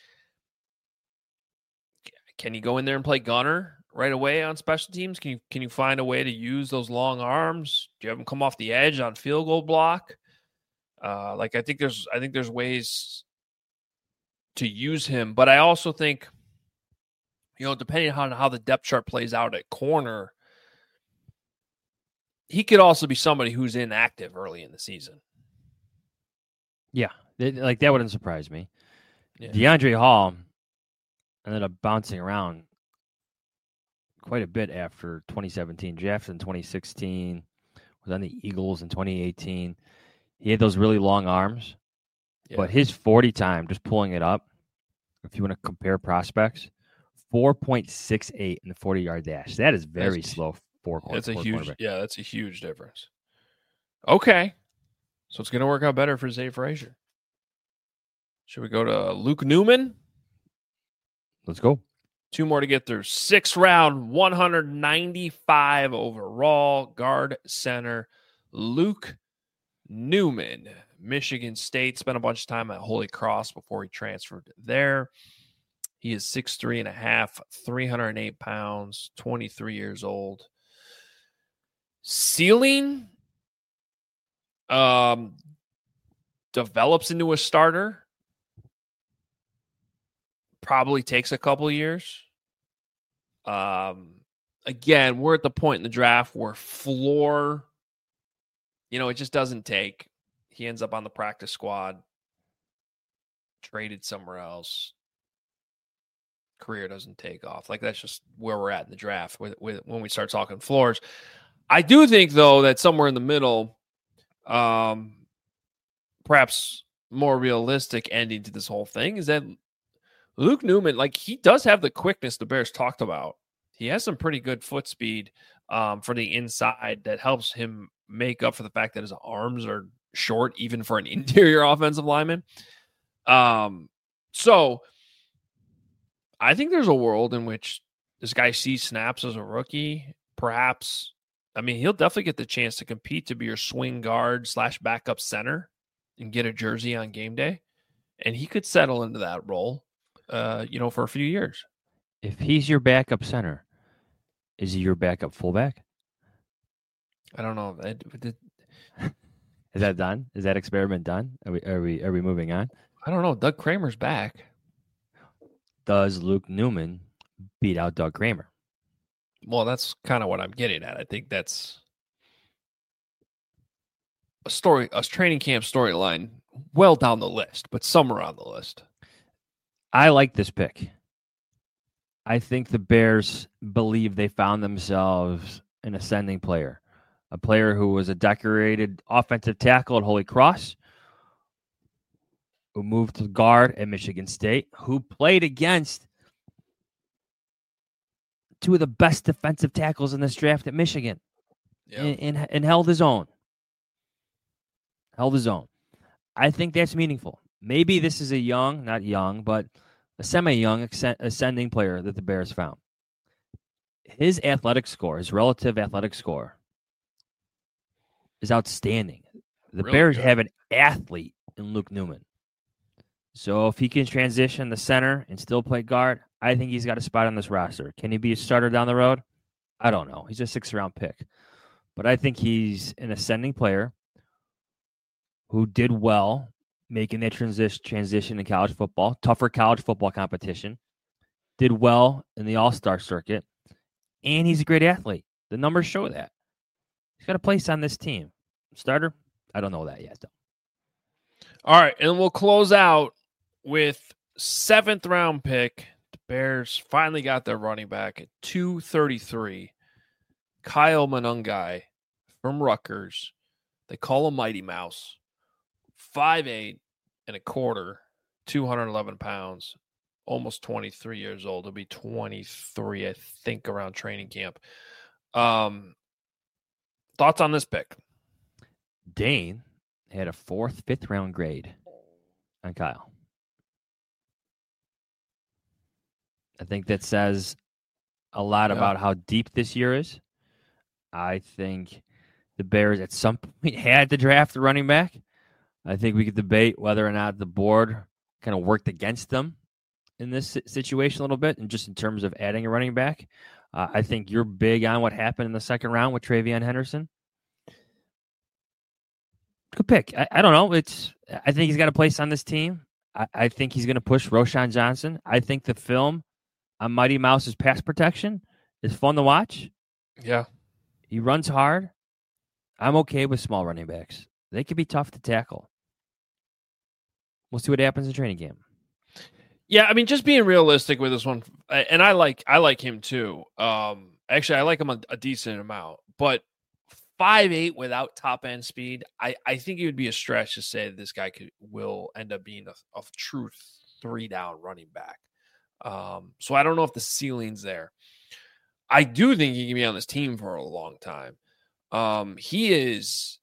can you go in there and play gunner right away on special teams? Can you can you find a way to use those long arms? Do you have him come off the edge on field goal block? Uh, like I think there's I think there's ways to use him, but I also think, you know, depending on how the depth chart plays out at corner, he could also be somebody who's inactive early in the season. Yeah, like that wouldn't surprise me. Yeah. DeAndre Hall ended up bouncing around quite a bit after twenty seventeen. Drafted in twenty sixteen, was on the Eagles in twenty eighteen. He had those really long arms, yeah. But his forty time, just pulling it up, if you want to compare prospects, four point six eight in the forty-yard dash. That is very that's, slow. Four. That's four a huge. Yeah, that's a huge difference. Okay, so it's going to work out better for Zay Frazier. Should we go to Luke Newman? Let's go. Two more to get through. Sixth round, one hundred ninety-five overall, guard center, Luke Newman, Michigan State. Spent a bunch of time at Holy Cross before he transferred there. He is six three and a half, three hundred eight pounds, twenty-three years old. Ceiling um, develops into a starter. Probably takes a couple years. Um, again, we're at the point in the draft where floor, you know, it just doesn't take. He ends up on the practice squad, traded somewhere else. career doesn't take off. Like, that's just where we're at in the draft with, with when we start talking floors. I do think, though, that somewhere in the middle, um, perhaps more realistic ending to this whole thing is that Luke Newman, like, he does have the quickness the Bears talked about. He has some pretty good foot speed um, for the inside that helps him make up for the fact that his arms are short, even for an interior offensive lineman. Um, so I think there's a world in which this guy sees snaps as a rookie. Perhaps, I mean, he'll definitely get the chance to compete to be your swing guard slash backup center and get a jersey on game day. And he could settle into that role, uh, you know, for a few years. If he's your backup center, is he your backup fullback? I don't know. Is that done? Is that experiment done? Are we are we are we moving on? I don't know. Doug Kramer's back. Does Luke Newman beat out Doug Kramer? Well, that's kind of what I'm getting at. I think that's a story, a training camp storyline well down the list, but somewhere on the list. I like this pick. I think the Bears believe they found themselves an ascending player, a player who was a decorated offensive tackle at Holy Cross, who moved to guard at Michigan State, who played against two of the best defensive tackles in this draft at Michigan, yeah. and, and, and held his own. Held his own. I think that's meaningful. Maybe this is a young, not young, but a semi-young ascending player that the Bears found. His athletic score, his relative athletic score, is outstanding. The really Bears good. have an athlete in Luke Newman. So if he can transition the center and still play guard, I think he's got a spot on this roster. Can he be a starter down the road? I don't know. He's a sixth-round pick. But I think he's an ascending player who did well making that transition transition in college football, tougher college football competition, did well in the all-star circuit, and he's a great athlete. The numbers show that. He's got a place on this team. Starter? I don't know that yet, though. All right, and we'll close out with seventh round pick. The Bears finally got their running back at two thirty-three. Kyle Monangai from Rutgers. They call him Mighty Mouse. five eight and a quarter, two hundred eleven pounds, almost twenty-three years old. He'll be twenty-three, I think, around training camp. Um, thoughts on this pick? Dane had a fourth, fifth round grade on Kyle. I think that says a lot yeah. about how deep this year is. I think the Bears at some point had to draft a running back. I think we could debate whether or not the board kind of worked against them in this situation a little bit, and just in terms of adding a running back. Uh, I think you're big on what happened in the second round with Travion Henderson. Good pick. I, I don't know. It's. I think he's got a place on this team. I, I think he's going to push Roschon Johnson. I think the film on Mighty Mouse's pass protection is fun to watch. Yeah. He runs hard. I'm okay with small running backs. They can be tough to tackle. We'll see what happens in training camp. Yeah, I mean, just being realistic with this one, and I like I like him too. Um, actually, I like him a, a decent amount, but five eight without top end speed, I, I think it would be a stretch to say that this guy could will end up being a, a true three down running back. Um, so I don't know if the ceiling's there. I do think he can be on this team for a long time. Um, he is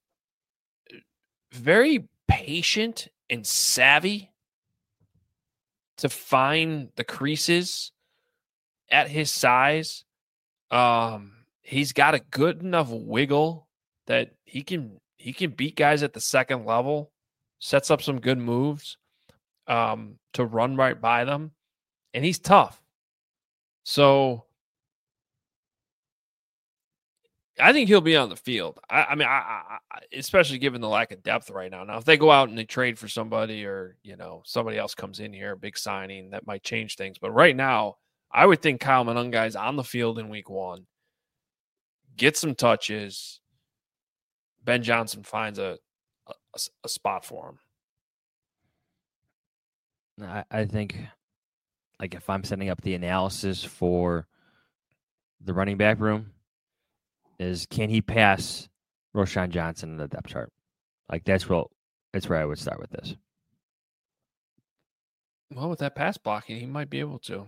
very patient and savvy to find the creases at his size. Um, he's got a good enough wiggle that he can he can beat guys at the second level, sets up some good moves um, to run right by them, and he's tough. So I think he'll be on the field. I, I mean, I, I, especially given the lack of depth right now. Now, if they go out and they trade for somebody, or you know somebody else comes in here, a big signing, that might change things. But right now, I would think Kyle Monangai is on the field in week one. Get some touches. Ben Johnson finds a a, a spot for him. I, I think like if I'm setting up the analysis for the running back room, is can he pass Roschon Johnson in the depth chart? Like that's what that's where I would start with this. Well, with that pass blocking, he might be able to.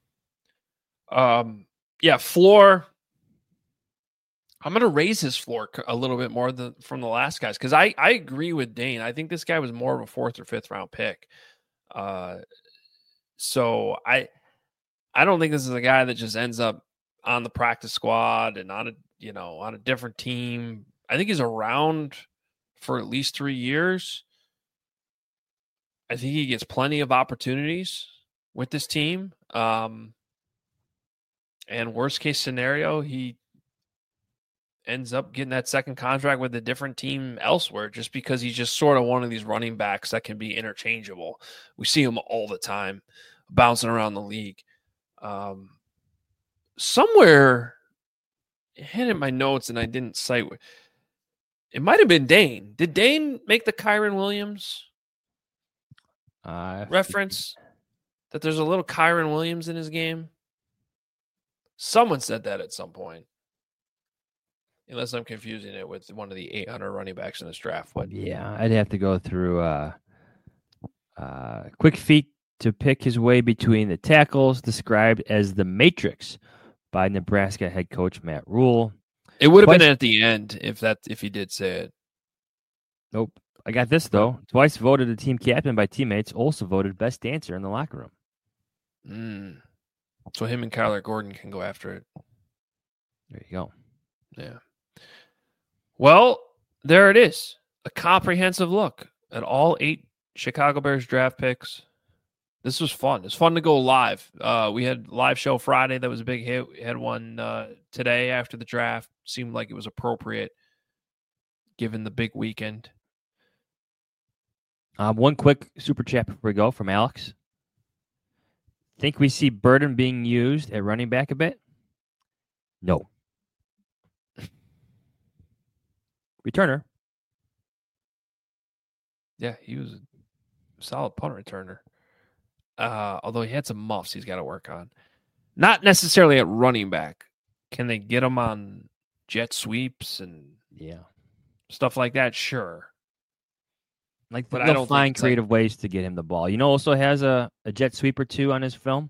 Um, yeah, floor. I'm going to raise his floor a little bit more than from the last guys because I, I agree with Dane. I think this guy was more of a fourth or fifth round pick. Uh, so I I don't think this is a guy that just ends up on the practice squad and on a you know on a different team. I think he's around for at least three years. I think he gets plenty of opportunities with this team. Um, and worst case scenario, he ends up getting that second contract with a different team elsewhere just because he's just sort of one of these running backs that can be interchangeable. We see him all the time bouncing around the league. Um, somewhere I had in my notes and I didn't cite it might have been Dane. Did Dane make the Kyron Williams uh, reference that there's a little Kyron Williams in his game? Someone said that at some point. Unless I'm confusing it with one of the eight hundred running backs in this draft. But yeah, I'd have to go through uh, uh, quick feet to pick his way between the tackles described as the Matrix by Nebraska head coach Matt Rule. It would have Twice, been at the end if that if he did say it. Nope. I got this, though. Twice voted a team captain by teammates, also voted best dancer in the locker room. Mm. So him and Kyler Gordon can go after it. There you go. Yeah. Well, there it is. A comprehensive look at all eight Chicago Bears draft picks. This was fun. It's fun to go live. Uh, we had live show Friday. That was a big hit. We had one uh, today after the draft. Seemed like it was appropriate given the big weekend. Um, one quick super chat before we go from Alex. Think we see Burden being used at running back a bit? No. Returner. Yeah, he was a solid punt returner. Uh, although he had some muffs he's got to work on. Not necessarily at running back. Can they get him on jet sweeps and yeah, stuff like that? Sure. Like, but they'll I don't find think creative like... ways to get him the ball. You know, also has a, a jet sweep or two on his film.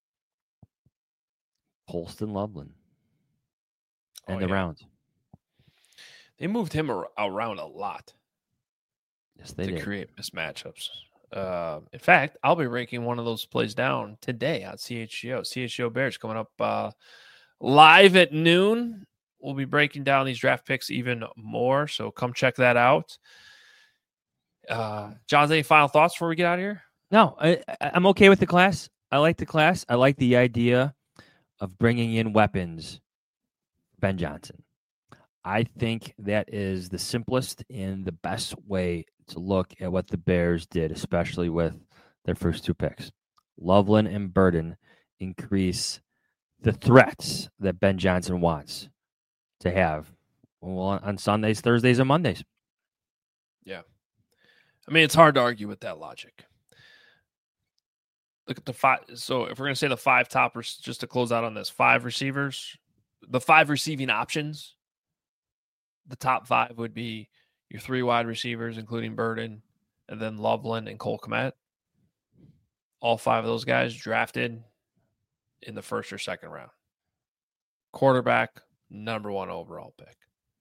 Colston Loveland. And oh, the yeah. rounds. They moved him ar- around a lot. Yes, they to did. create mismatchups. Uh, in fact, I'll be breaking one of those plays down today on C H G O. C H G O Bears coming up uh, live at noon. We'll be breaking down these draft picks even more, so come check that out. Uh, John's, any final thoughts before we get out of here? No, I, I'm okay with the class. I like the class. I like the idea of bringing in weapons. Ben Johnson. I think that is the simplest and the best way to look at what the Bears did, especially with their first two picks. Loveland and Burden increase the threats that Ben Johnson wants to have well, on Sundays, Thursdays, and Mondays. Yeah. I mean, it's hard to argue with that logic. Look at the five. So if we're going to say the five toppers, just to close out on this, five receivers, the five receiving options, the top five would be your three wide receivers, including Burden, and then Loveland and Cole Kmet. All five of those guys drafted in the first or second round. Quarterback, number one overall pick.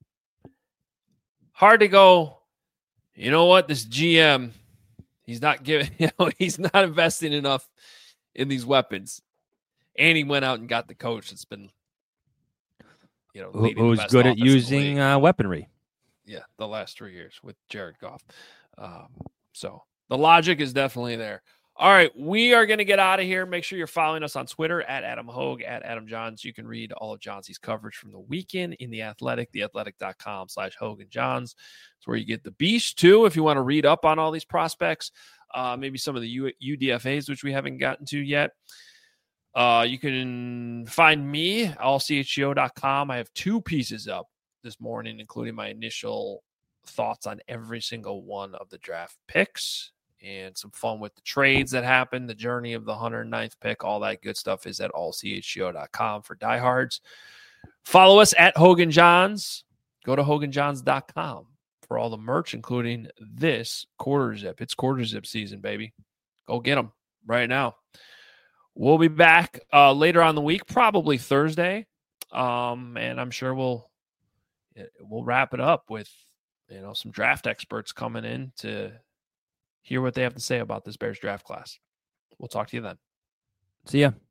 Hard to go, you know what, this G M, he's not giving, you know, he's not investing enough in these weapons. And he went out and got the coach that's been, you know, who's good at using uh, weaponry. Yeah, the last three years with Jared Goff. Um, so the logic is definitely there. All right, we are going to get out of here. Make sure you're following us on Twitter at Adam Hogue, at Adam Johns. You can read all of Johnsy's coverage from the weekend in The Athletic, theathletic.com slash Hogue and Johns. It's where you get the beast, too, if you want to read up on all these prospects, uh, maybe some of the U- UDFAs, which we haven't gotten to yet. Uh, you can find me, all C H G O dot com. I have two pieces up this morning, including my initial thoughts on every single one of the draft picks. and some fun with the trades that happened, the journey of the one hundred ninth pick, all that good stuff is at all c h g o dot com for diehards. Follow us at Hogan Johns. Go to hogan johns dot com for all the merch, including this quarter zip. It's quarter zip season, baby. Go get them right now. We'll be back uh, later on the week, probably Thursday, um, and I'm sure we'll we'll wrap it up with you know some draft experts coming in to hear what they have to say about this Bears draft class. We'll talk to you then. See ya.